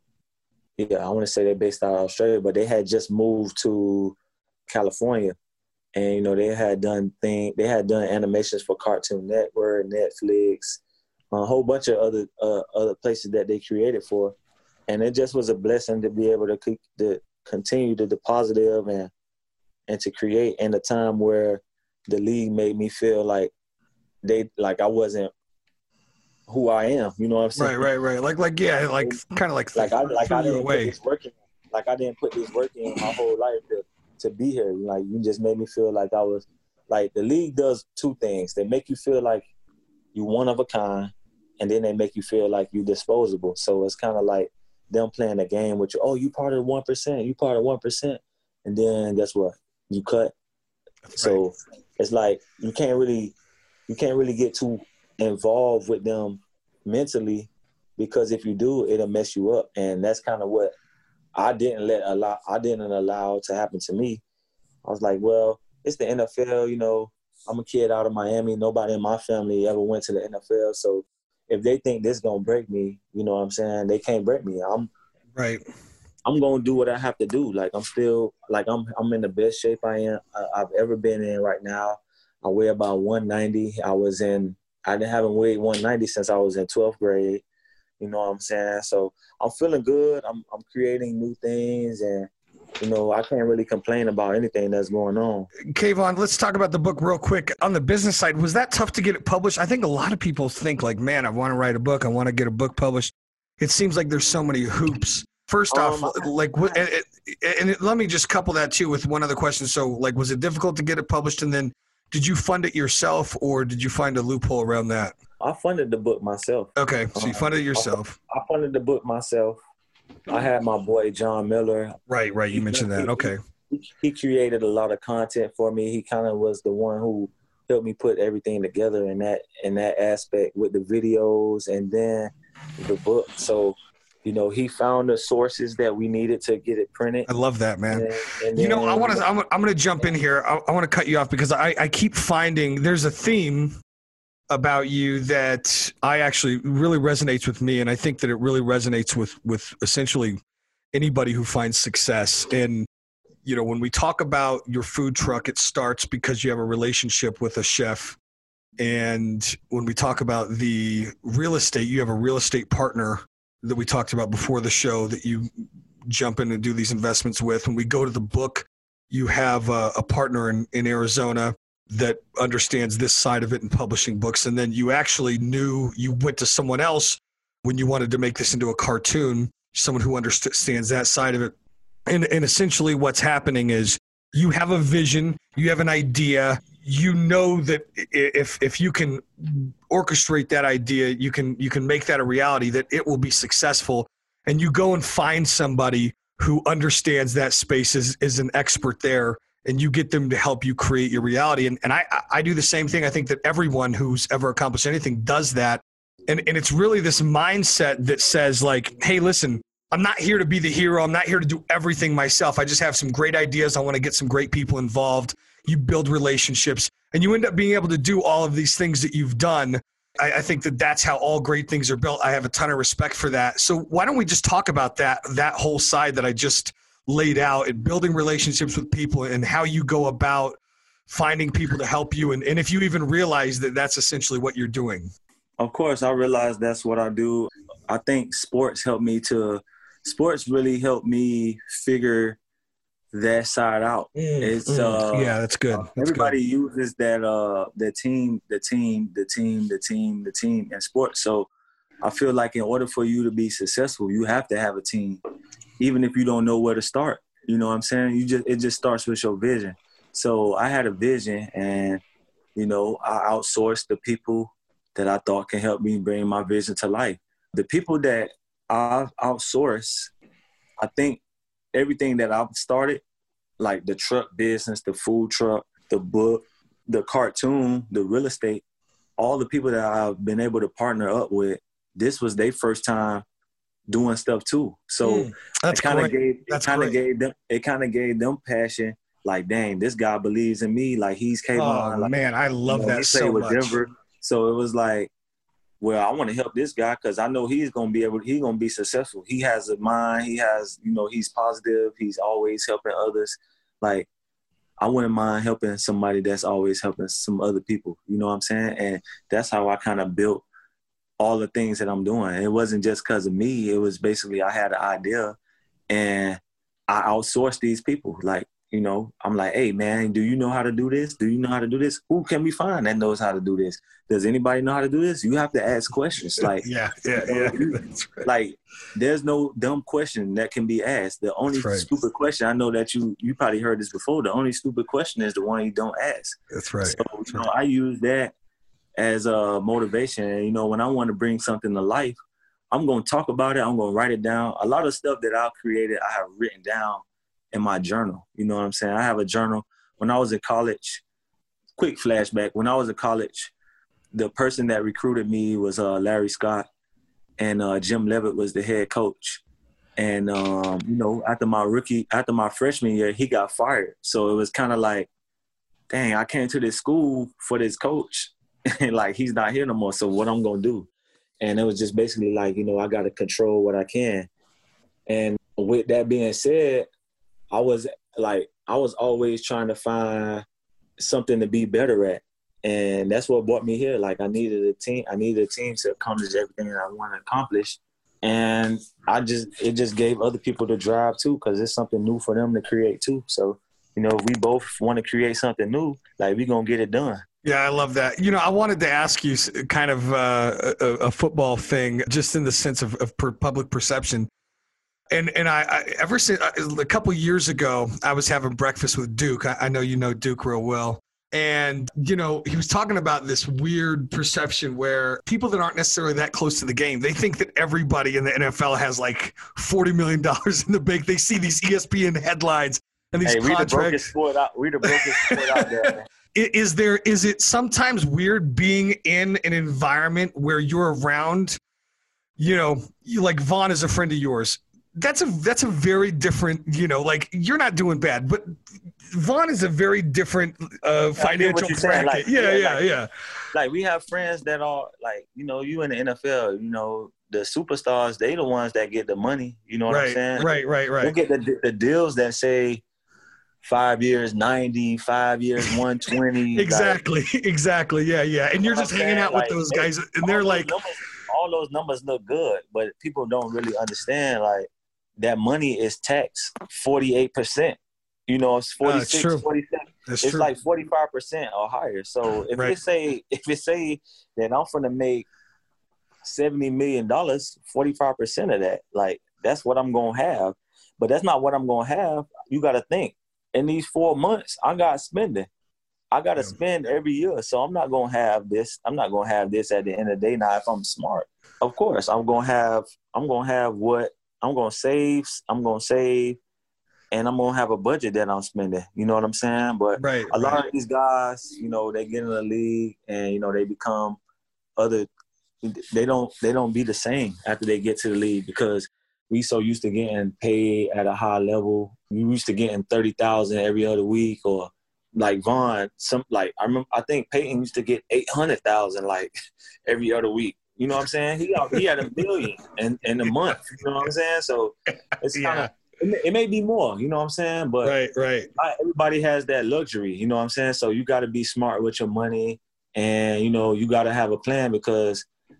Yeah, I want to say they're based out of Australia, but they had just moved to California. And, you know, they had done thing, they had done animations for Cartoon Network, Netflix, a whole bunch of other uh, other places that they created for. And it just was a blessing to be able to, to continue to the positive and and to create in a time where the league made me feel like they like I wasn't who I am. You know what I'm saying? Right, right, right. Like, like yeah, like kind of like like I like I didn't away. put this work in. Like I didn't put this work in my whole life to to be here. Like, you just made me feel like I was like, the league does two things. They make you feel like you one of a kind, and then they make you feel like you disposable. So it's kind of like them playing a game with you. Oh, you part of the one percent. You part of one percent. And then guess what? You cut. That's so right. It's like you can't really you can't really get too involved with them mentally, because if you do, it'll mess you up. And that's kind of what I didn't let allow I didn't allow to happen to me. I was like, well, it's the N F L, you know, I'm a kid out of Miami. Nobody in my family ever went to the N F L. So if they think this gonna break me, you know what I'm saying, they can't break me. I'm right. I'm gonna do what I have to do. Like, I'm still like I'm I'm in the best shape I am uh, I've ever been in right now. I weigh about one ninety. I was in I didn't haven't weighed one ninety since I was in twelfth grade. You know what I'm saying? So I'm feeling good. I'm I'm creating new things, and you know, I can't really complain about anything that's going on. Kayvon, let's talk about the book real quick. On the business side, was that tough to get it published? I think a lot of people think like, man, I want to write a book. I want to get a book published. It seems like there's so many hoops. First off, um, like, and, and, and let me just couple that too with one other question. So, like, was it difficult to get it published? And then did you fund it yourself, or did you find a loophole around that? I funded the book myself. Okay, so you funded it Um, yourself. I, I funded the book myself. I had my boy John Miller. Right, right. You mentioned that. Okay. He, he created a lot of content for me. He kind of was the one who helped me put everything together in that in that aspect with the videos and then the book. So, you know, he found the sources that we needed to get it printed. I love that, man. And, and you know, then, I want to. I'm, I'm going to jump in here. I, I want to cut you off because I, I keep finding there's a theme about you that I actually really resonates with me, and I think that it really resonates with with essentially anybody who finds success. And you know, when we talk about your food truck, it starts because you have a relationship with a chef. And when we talk about the real estate, you have a real estate partner that we talked about before the show that you jump in and do these investments with. When we go to the book, you have a, a partner in, in Arizona that understands this side of it in publishing books. And then you actually knew you went to someone else when you wanted to make this into a cartoon, someone who understands that side of it. And, and essentially what's happening is you have a vision, you have an idea, you know that if if you can orchestrate that idea, you can you can make that a reality, that it will be successful. And you go and find somebody who understands that space, is, is an expert there, and you get them to help you create your reality. And, and I, I do the same thing. I think that everyone who's ever accomplished anything does that. And, and it's really this mindset that says like, hey, listen, I'm not here to be the hero. I'm not here to do everything myself. I just have some great ideas. I want to get some great people involved. You build relationships, and you end up being able to do all of these things that you've done. I, I think that that's how all great things are built. I have a ton of respect for that. So why don't we just talk about that, that whole side that I just laid out, and building relationships with people and how you go about finding people to help you. And, and if you even realize that that's essentially what you're doing. Of course, I realize that's what I do. I think sports helped me to Sports really helped me figure that side out. Mm, it's mm, uh, yeah, that's good. That's everybody good. uses that uh, the team, the team, the team, the team, the team in sports. So I feel like in order for you to be successful, you have to have a team, even if you don't know where to start. You know what I'm saying? You just it just starts with your vision. So I had a vision, and you know I outsourced the people that I thought can help me bring my vision to life. The people that I've outsourced, I think everything that I've started, like the truck business, the food truck, the book, the cartoon, the real estate, all the people that I've been able to partner up with, this was their first time doing stuff too. So mm, that's it kind of gave it that's kind of great. gave them it kind of gave them passion. Like, dang, this guy believes in me. Like he's came Oh on. Like, man, I love you know, that he so played with much. Denver. So it was like, well, I want to help this guy because I know he's going to be able, he's going to be successful. He has a mind. He has, you know, he's positive. He's always helping others. Like, I wouldn't mind helping somebody that's always helping some other people. You know what I'm saying? And that's how I kind of built all the things that I'm doing. It wasn't just because of me. It was basically I had an idea and I outsourced these people. Like, you know, I'm like, hey, man, do you know how to do this? Do you know how to do this? Who can we find that knows how to do this? Does anybody know how to do this? You have to ask questions. Like, yeah, yeah, yeah. That's right. Like, there's no dumb question that can be asked. The only right. stupid question, I know that you you probably heard this before, the only stupid question is the one you don't ask. That's right. So, That's you know, right. I use that as a motivation. And, you know, when I want to bring something to life, I'm going to talk about it. I'm going to write it down. A lot of stuff that I've created, I have written down in my journal. You know what I'm saying? I have a journal. When I was in college, quick flashback, when I was in college, the person that recruited me was uh, Larry Scott, and uh, Jim Levitt was the head coach. And, um, you know, after my rookie, after my freshman year, he got fired. So it was kind of like, dang, I came to this school for this coach, and like, he's not here no more. So what I'm going to do? And it was just basically like, you know, I got to control what I can. And with that being said, I was like, I was always trying to find something to be better at. And that's what brought me here. Like, I needed a team. I needed a team to accomplish everything that I want to accomplish. And I just, it just gave other people the drive too, because it's something new for them to create too. So, you know, if we both want to create something new, like, we're going to get it done. Yeah, I love that. You know, I wanted to ask you kind of uh, a, a football thing, just in the sense of, of per public perception. And and I, I ever since a couple years ago, I was having breakfast with Duke. I, I know you know Duke real well. And, you know, he was talking about this weird perception where people that aren't necessarily that close to the game, they think that everybody in the N F L has like forty million dollars in the bank. They see these E S P N headlines and these hey, we contracts. The brokest sport out, we the brokest sport out there, man. Is there, is it sometimes weird being in an environment where you're around, you know, you, like Vaughn is a friend of yours. That's a, that's a very different, you know, like you're not doing bad, but Vaughn is a very different uh, financial bracket. Like, yeah, yeah, like, yeah. Like we have friends that are like, you know, you in the N F L, you know, the superstars, they the ones that get the money. You know what right, I'm saying? Right, right, right. They get the, the deals that say five years, ninety, five years, one twenty. Exactly, like, exactly. Yeah, yeah. And you're just hanging out like, with those they, guys, and they're like, numbers, all those numbers look good, but people don't really understand like that money is taxed forty-eight percent. You know, it's forty-six, uh, forty-seven. That's it's true. like forty-five percent or higher. So if right. it say if it say that I'm gonna make seventy million dollars, forty-five percent of that, like that's what I'm gonna have. But that's not what I'm gonna have. You gotta think. In these four months, I got spending. I gotta yeah. spend every year. So I'm not gonna have this. I'm not gonna have this at the end of the day. Now, if I'm smart, of course, I'm gonna have. I'm gonna have what I'm gonna save. I'm gonna save. And I'm gonna have a budget that I'm spending. You know what I'm saying? But right, a lot right. of these guys, you know, they get in the league and you know they become other. They don't. They don't be the same after they get to the league because we so used to getting paid at a high level. We used to getting thirty thousand every other week, or like Vaughn. Some like I remember. I think Peyton used to get eight hundred thousand like every other week. You know what I'm saying? He he had a million in in a month. You know what I'm saying? So it's kind of. Yeah. It may, it may be more, you know what I'm saying? But right, right. not everybody has that luxury, you know what I'm saying? So you got to be smart with your money and, you know, you got to have a plan because,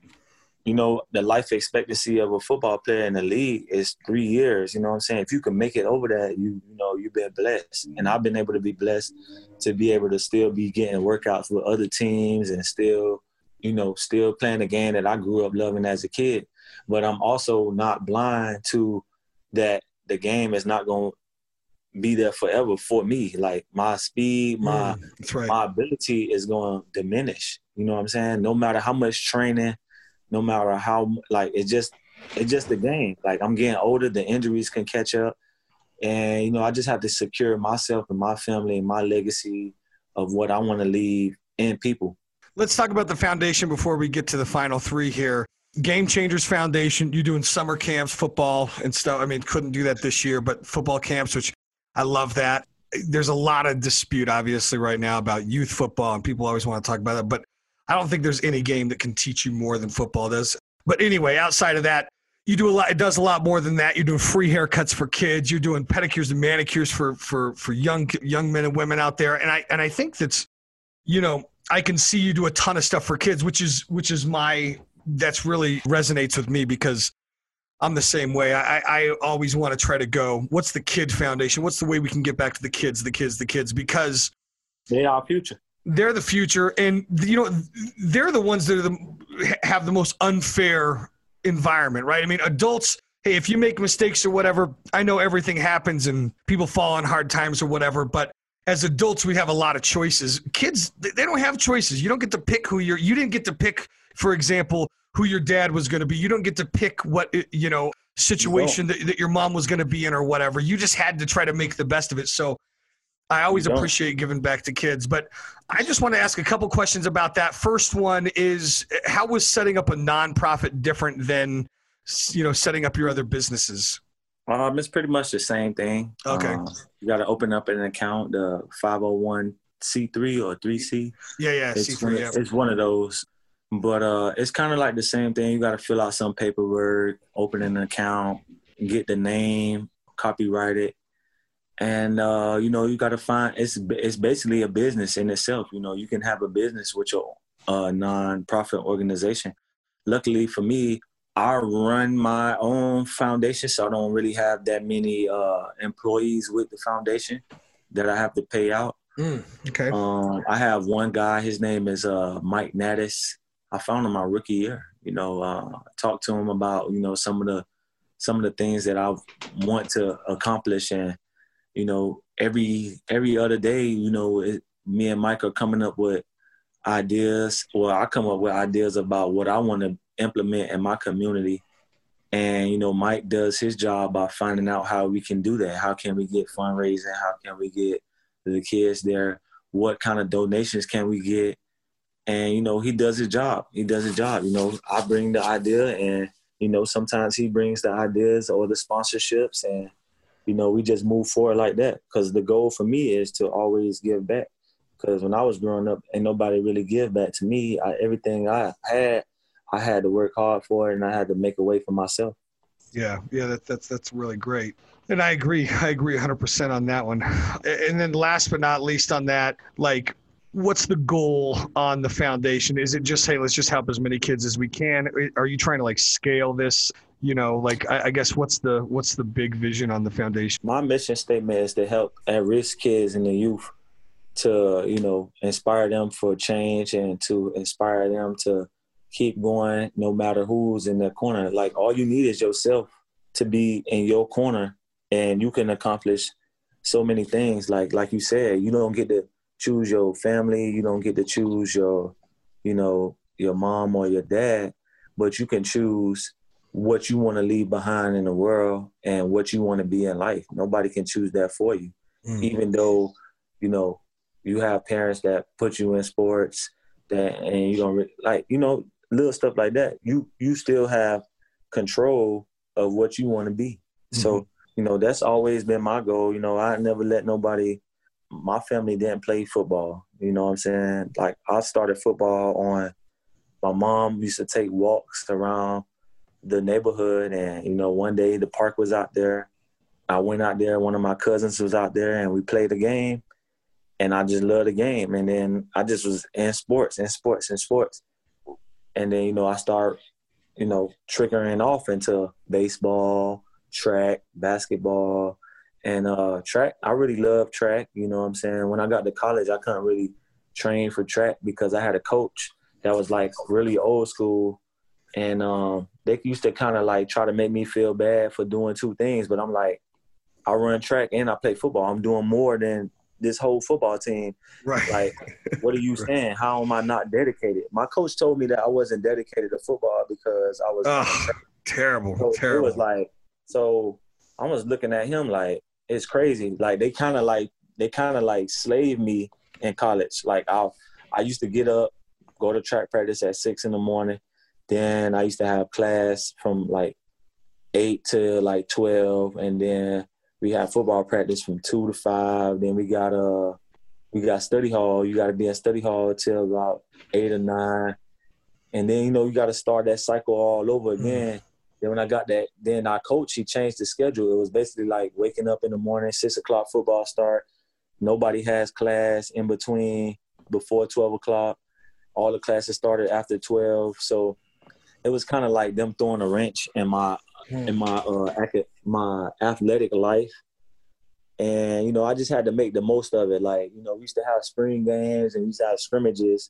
you know, the life expectancy of a football player in the league is three years, you know what I'm saying? If you can make it over that, you you know, you've been blessed. And I've been able to be blessed to be able to still be getting workouts with other teams and still, you know, still playing the game that I grew up loving as a kid. But I'm also not blind to that. The game is not going to be there forever for me. Like my speed, my mm, right. my ability is going to diminish. You know what I'm saying? No matter how much training, no matter how like it's just it's just the game. Like I'm getting older, the injuries can catch up, and you know I just have to secure myself and my family and my legacy of what I want to leave in people. Let's talk about the foundation before we get to the final three here. Game Changers Foundation, you doing summer camps, football and stuff. I mean, couldn't do that this year, but football camps, which I love that. There's a lot of dispute, obviously, right now about youth football, and people always want to talk about that. But I don't think there's any game that can teach you more than football does. But anyway, outside of that, you do a lot. It does a lot more than that. You're doing free haircuts for kids. You're doing pedicures and manicures for for for young young men and women out there. And I and I think that's, you know, I can see you do a ton of stuff for kids, which is which is my. That's really resonates with me because I'm the same way. I, I always want to try to go, what's the kid foundation? What's the way we can get back to the kids, the kids, the kids? Because they are our future. They're the future. And, you know, they're the ones that are the, have the most unfair environment, right? I mean, adults, hey, if you make mistakes or whatever, I know everything happens and people fall on hard times or whatever, but as adults, we have a lot of choices. Kids, they don't have choices. You don't get to pick who you're, you didn't get to pick, for example, who your dad was going to be. You don't get to pick what, you know, situation that, that your mom was going to be in or whatever. You just had to try to make the best of it. So I always appreciate giving back to kids. But I just want to ask a couple questions about that. First one is, how was setting up a nonprofit different than, you know, setting up your other businesses? Um, it's pretty much the same thing. Okay. Um, you got to open up an account, the five oh one c three or three C. Yeah, yeah, it's C three, one, yeah. It's one of those. But uh, it's kind of like the same thing. You got to fill out some paperwork, open an account, get the name, copyright it. And, uh, you know, you got to find – it's it's basically a business in itself. You know, you can have a business with your uh, non-profit organization. Luckily for me, I run my own foundation, so I don't really have that many uh, employees with the foundation that I have to pay out. Mm, okay. Um, I have one guy. His name is uh, Mike Naddis. I found him my rookie year. You know, uh, talked to him about you know some of the some of the things that I want to accomplish, and you know every every other day, you know, it, me and Mike are coming up with ideas, or I come up with ideas about what I want to implement in my community. And, you know, Mike does his job by finding out how we can do that. How can we get fundraising? How can we get the kids there? What kind of donations can we get? And, you know, he does his job. He does his job. You know, I bring the idea, and, you know, sometimes he brings the ideas or the sponsorships, and, you know, we just move forward like that. Because the goal for me is to always give back. Because when I was growing up, ain't nobody really give back to me. I, everything I had, I had to work hard for it, and I had to make a way for myself. Yeah, yeah, that, that's that's really great. And I agree. I agree one hundred percent on that one. And then last but not least on that, like, what's the goal on the foundation? Is it just, hey, let's just help as many kids as we can? Are you trying to, like, scale this? You know, like, I, I guess what's the what's the big vision on the foundation? My mission statement is to help at-risk kids and the youth to, you know, inspire them for change and to inspire them to keep going no matter who's in their corner. Like, all you need is yourself to be in your corner, and you can accomplish so many things. Like like you said, you don't get to choose your family. You don't get to choose your, you know, your mom or your dad, but you can choose what you want to leave behind in the world and what you want to be in life. Nobody can choose that for you. Mm. Even though, you know, you have parents that put you in sports that, and you don't re- like, you know, little stuff like that. You, you still have control of what you want to be. Mm-hmm. So, you know, that's always been my goal. You know, I never let nobody, my family didn't play football. You know what I'm saying? Like, I started football on, my mom used to take walks around the neighborhood, and, you know, one day the park was out there. I went out there, one of my cousins was out there, and we played a game, and I just loved the game. And then I just was in sports, in sports, in sports. And then, you know, I start, you know, triggering off into baseball, track, basketball, and uh, track. I really love track, you know what I'm saying? When I got to college, I couldn't really train for track because I had a coach that was, like, really old school. And um, they used to kind of, like, try to make me feel bad for doing two things. But I'm like, I run track and I play football. I'm doing more than this whole football team. Right. Like, what are you right. saying? How am I not dedicated? My coach told me that I wasn't dedicated to football because I was oh, terrible, so terrible. It was like, so I was looking at him like, it's crazy. Like, they kind of like, they kind of like slaved me in college. Like, I I used to get up, go to track practice at six in the morning. Then I used to have class from like eight to like twelve. And then we had football practice from two to five. Then we got uh we got study hall. You got to be in study hall till about eight or nine. And then, you know, you got to start that cycle all over again. Mm. Then when I got that, then our coach, he changed the schedule. It was basically like waking up in the morning, six o'clock football start. Nobody has class in between before twelve o'clock. All the classes started after twelve. So it was kind of like them throwing a wrench in my mm. in my uh my athletic life. And, you know, I just had to make the most of it. Like, you know, we used to have spring games and we used to have scrimmages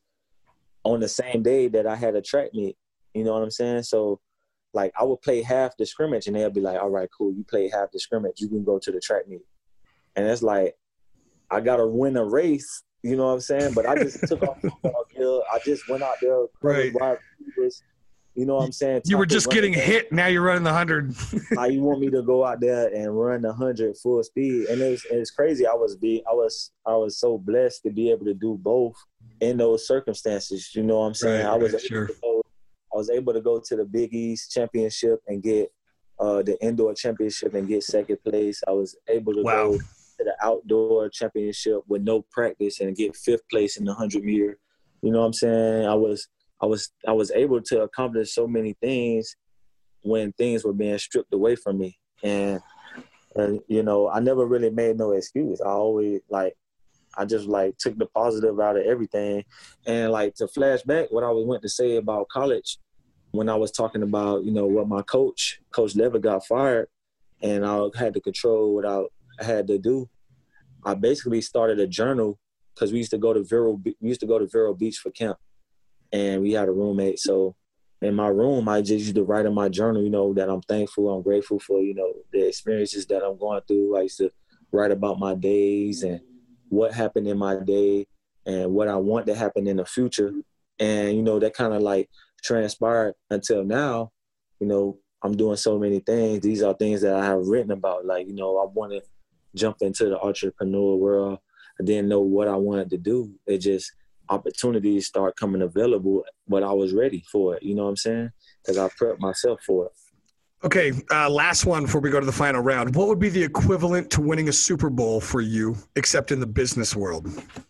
on the same day that I had a track meet. You know what I'm saying? So, like, I would play half the scrimmage and they'll be like, all right, cool, you played half the scrimmage, you can go to the track meet. And it's like, I got to win a race, you know what I'm saying? But I just took off football gear. I just went out there, right. wide receivers. You know what I'm saying? You were just getting hit. Now you're running the hundred. Now you want me to go out there and run the hundred full speed, and it's it's crazy. I was be I was I was so blessed to be able to do both in those circumstances. You know what I'm saying? Right, I was right, sure. go, I was able to go to the Big East championship and get uh, the indoor championship and get second place. I was able to wow. go to the outdoor championship with no practice and get fifth place in the hundred meter. You know what I'm saying? I was. I was I was able to accomplish so many things when things were being stripped away from me. And, and, you know, I never really made no excuse. I always, like, I just, like, took the positive out of everything. And, like, to flash back what I was went to say about college, when I was talking about, you know, what my coach, Coach Levitt, got fired, and I had to control what I had to do, I basically started a journal because we used to go to Vero, we used to go to Vero Beach for camp. And we had a roommate. So in my room, I just used to write in my journal, you know, that I'm thankful, I'm grateful for, you know, the experiences that I'm going through. I used to write about my days and what happened in my day, and what I want to happen in the future. And, you know, that kind of like transpired until now. You know, I'm doing so many things. These are things that I have written about. Like, you know, I want to jump into the entrepreneur world. I didn't know what I wanted to do. It just, opportunities start coming available, but I was ready for it. You know what I'm saying? Because I prepped myself for it. Okay, uh, last one before we go to the final round. What would be the equivalent to winning a Super Bowl for you, except in the business world?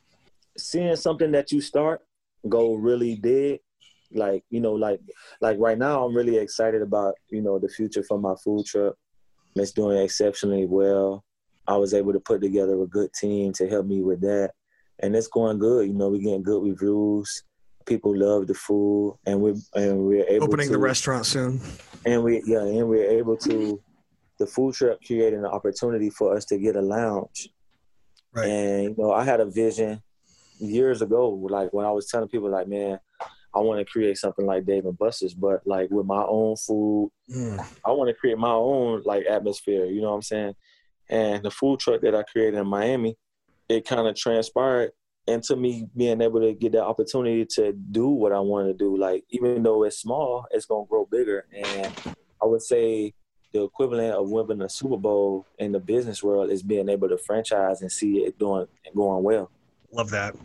Seeing something that you start go really big, like, you know, like like right now I'm really excited about, you know, the future for my food truck. It's doing exceptionally well. I was able to put together a good team to help me with that. And it's going good. You know, we're getting good reviews. People love the food, and we're and we're able opening to, the restaurant soon. And we yeah, and we're able to. The food truck created an opportunity for us to get a lounge. Right. And you know, I had a vision years ago, like when I was telling people, like, man, I want to create something like Dave and Buster's, but like with my own food. Mm. I want to create my own like atmosphere. You know what I'm saying? And the food truck that I created in Miami, it kind of transpired into me being able to get that opportunity to do what I wanted to do. Like, even though it's small, it's going to grow bigger. And I would say the equivalent of winning a Super Bowl in the business world is being able to franchise and see it doing going well. Love that.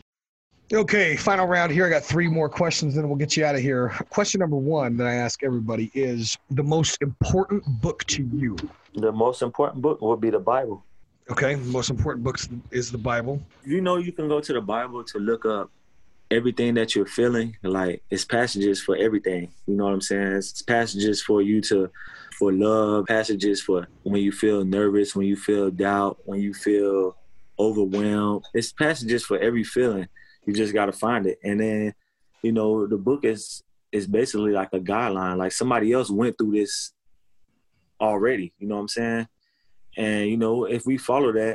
Okay, final round here. I got three more questions, then we'll get you out of here. Question number one that I ask everybody is the most important book to you. The most important book would be the Bible. Okay, the most important book is the Bible. You know, you can go to the Bible to look up everything that you're feeling. Like, it's passages for everything. You know what I'm saying? It's passages for you to, for love, passages for when you feel nervous, when you feel doubt, when you feel overwhelmed. It's passages for every feeling. You just got to find it. And then, you know, the book is is basically like a guideline. Like, somebody else went through this already. You know what I'm saying? And, you know, if we follow that,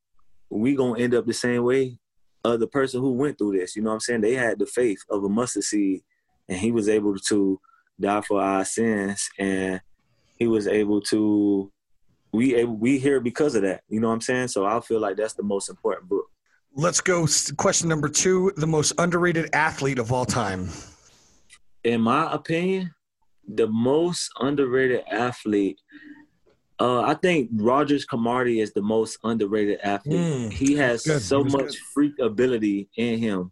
we going to end up the same way of the person who went through this. You know what I'm saying? They had the faith of a mustard seed, and he was able to die for our sins, and he was able to – we able, we here because of that. You know what I'm saying? So I feel like that's the most important book. Let's go. Question number two, the most underrated athlete of all time. In my opinion, the most underrated athlete – Uh, I think Rogers Camardi is the most underrated athlete. Mm, he has good. so he much good. freak ability in him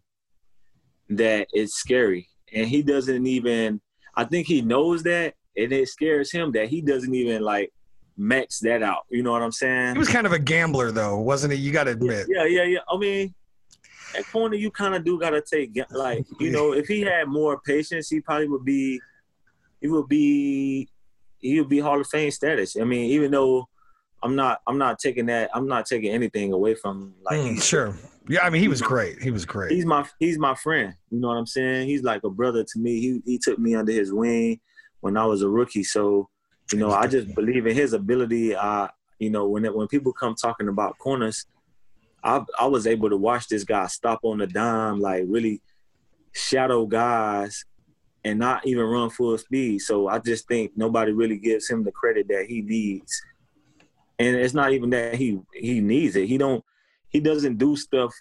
that it's scary. And he doesn't even – I think he knows that, and it scares him that he doesn't even, like, max that out. You know what I'm saying? He was kind of a gambler, though, wasn't he? You got to admit. Yeah, yeah, yeah. I mean, at corner, you kind of do got to take – like, you know, if he had more patience, he probably would be – he would be – he would be Hall of Fame status. I mean, even though I'm not, I'm not taking that, I'm not taking anything away from like. Mm, sure. Yeah, I mean, he was great. He was great. He's my, he's my friend. You know what I'm saying? He's like a brother to me. He he took me under his wing when I was a rookie. So, you know, I just believe in his ability. I, you know, when it, when people come talking about corners, I I was able to watch this guy stop on the dime, like really shadow guys, and not even run full speed. So I just think nobody really gives him the credit that he needs. And it's not even that he he needs it. He don't he doesn't do stuff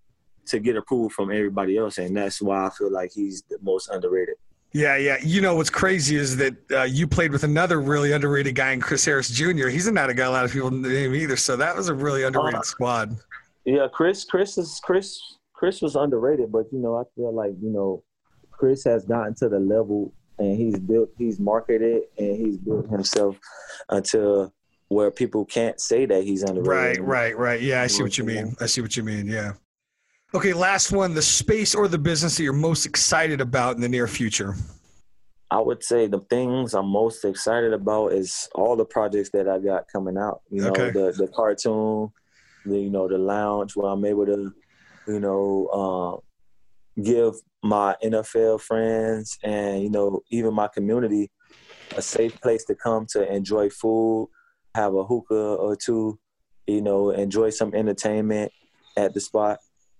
to get approval from everybody else, and that's why I feel like he's the most underrated. Yeah, yeah. You know what's crazy is that uh, you played with another really underrated guy in Chris Harris Junior He's not a guy a lot of people name either, so that was a really underrated uh, squad. Yeah, Chris Chris is Chris Chris was underrated, but you know, I feel like, you know, Chris has gotten to the level, and he's built, he's marketed, and he's built himself until where people can't say that he's underrated. Right, right, right. Yeah, I see what you mean. I see what you mean. Yeah. Okay, last one, the space or the business that you're most excited about in the near future. I would say the things I'm most excited about is all the projects that I got coming out. You know, okay. the the cartoon, the, you know, the lounge where I'm able to, you know, uh, give my N F L friends and, you know, even my community a safe place to come to enjoy food, have a hookah or two, you know, enjoy some entertainment at the spot,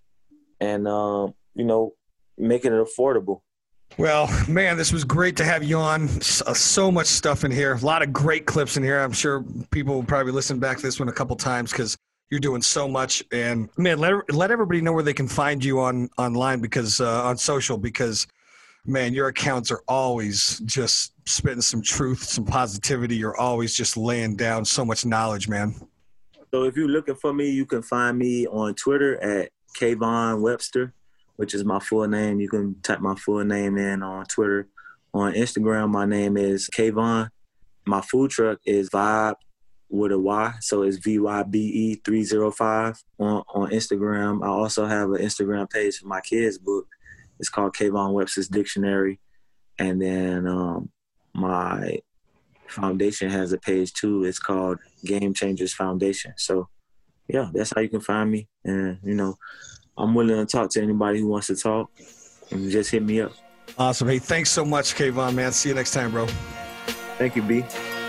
and, um, you know, making it affordable. Well, man, this was great to have you on. So much stuff in here. A lot of great clips in here. I'm sure people will probably listen back to this one a couple times because You're doing so much, and man, let let everybody know where they can find you on online because uh, on social because. Man, your accounts are always just spitting some truth, some positivity. You're always just laying down so much knowledge, man. So if you're looking for me, you can find me on Twitter at Kayvon Webster, which is my full name. You can type my full name in on Twitter. On Instagram, my name is Kayvon. My food truck is Vibe with a Y, so it's V Y B E three oh five on, on Instagram. I also have an Instagram page for my kids' book. It's called Kayvon Webster's Dictionary. And then um, my foundation has a page too. It's called Game Changers Foundation. So, yeah, that's how you can find me. And, you know, I'm willing to talk to anybody who wants to talk. And just hit me up. Awesome. Hey, thanks so much, Kayvon, man. See you next time, bro. Thank you, B.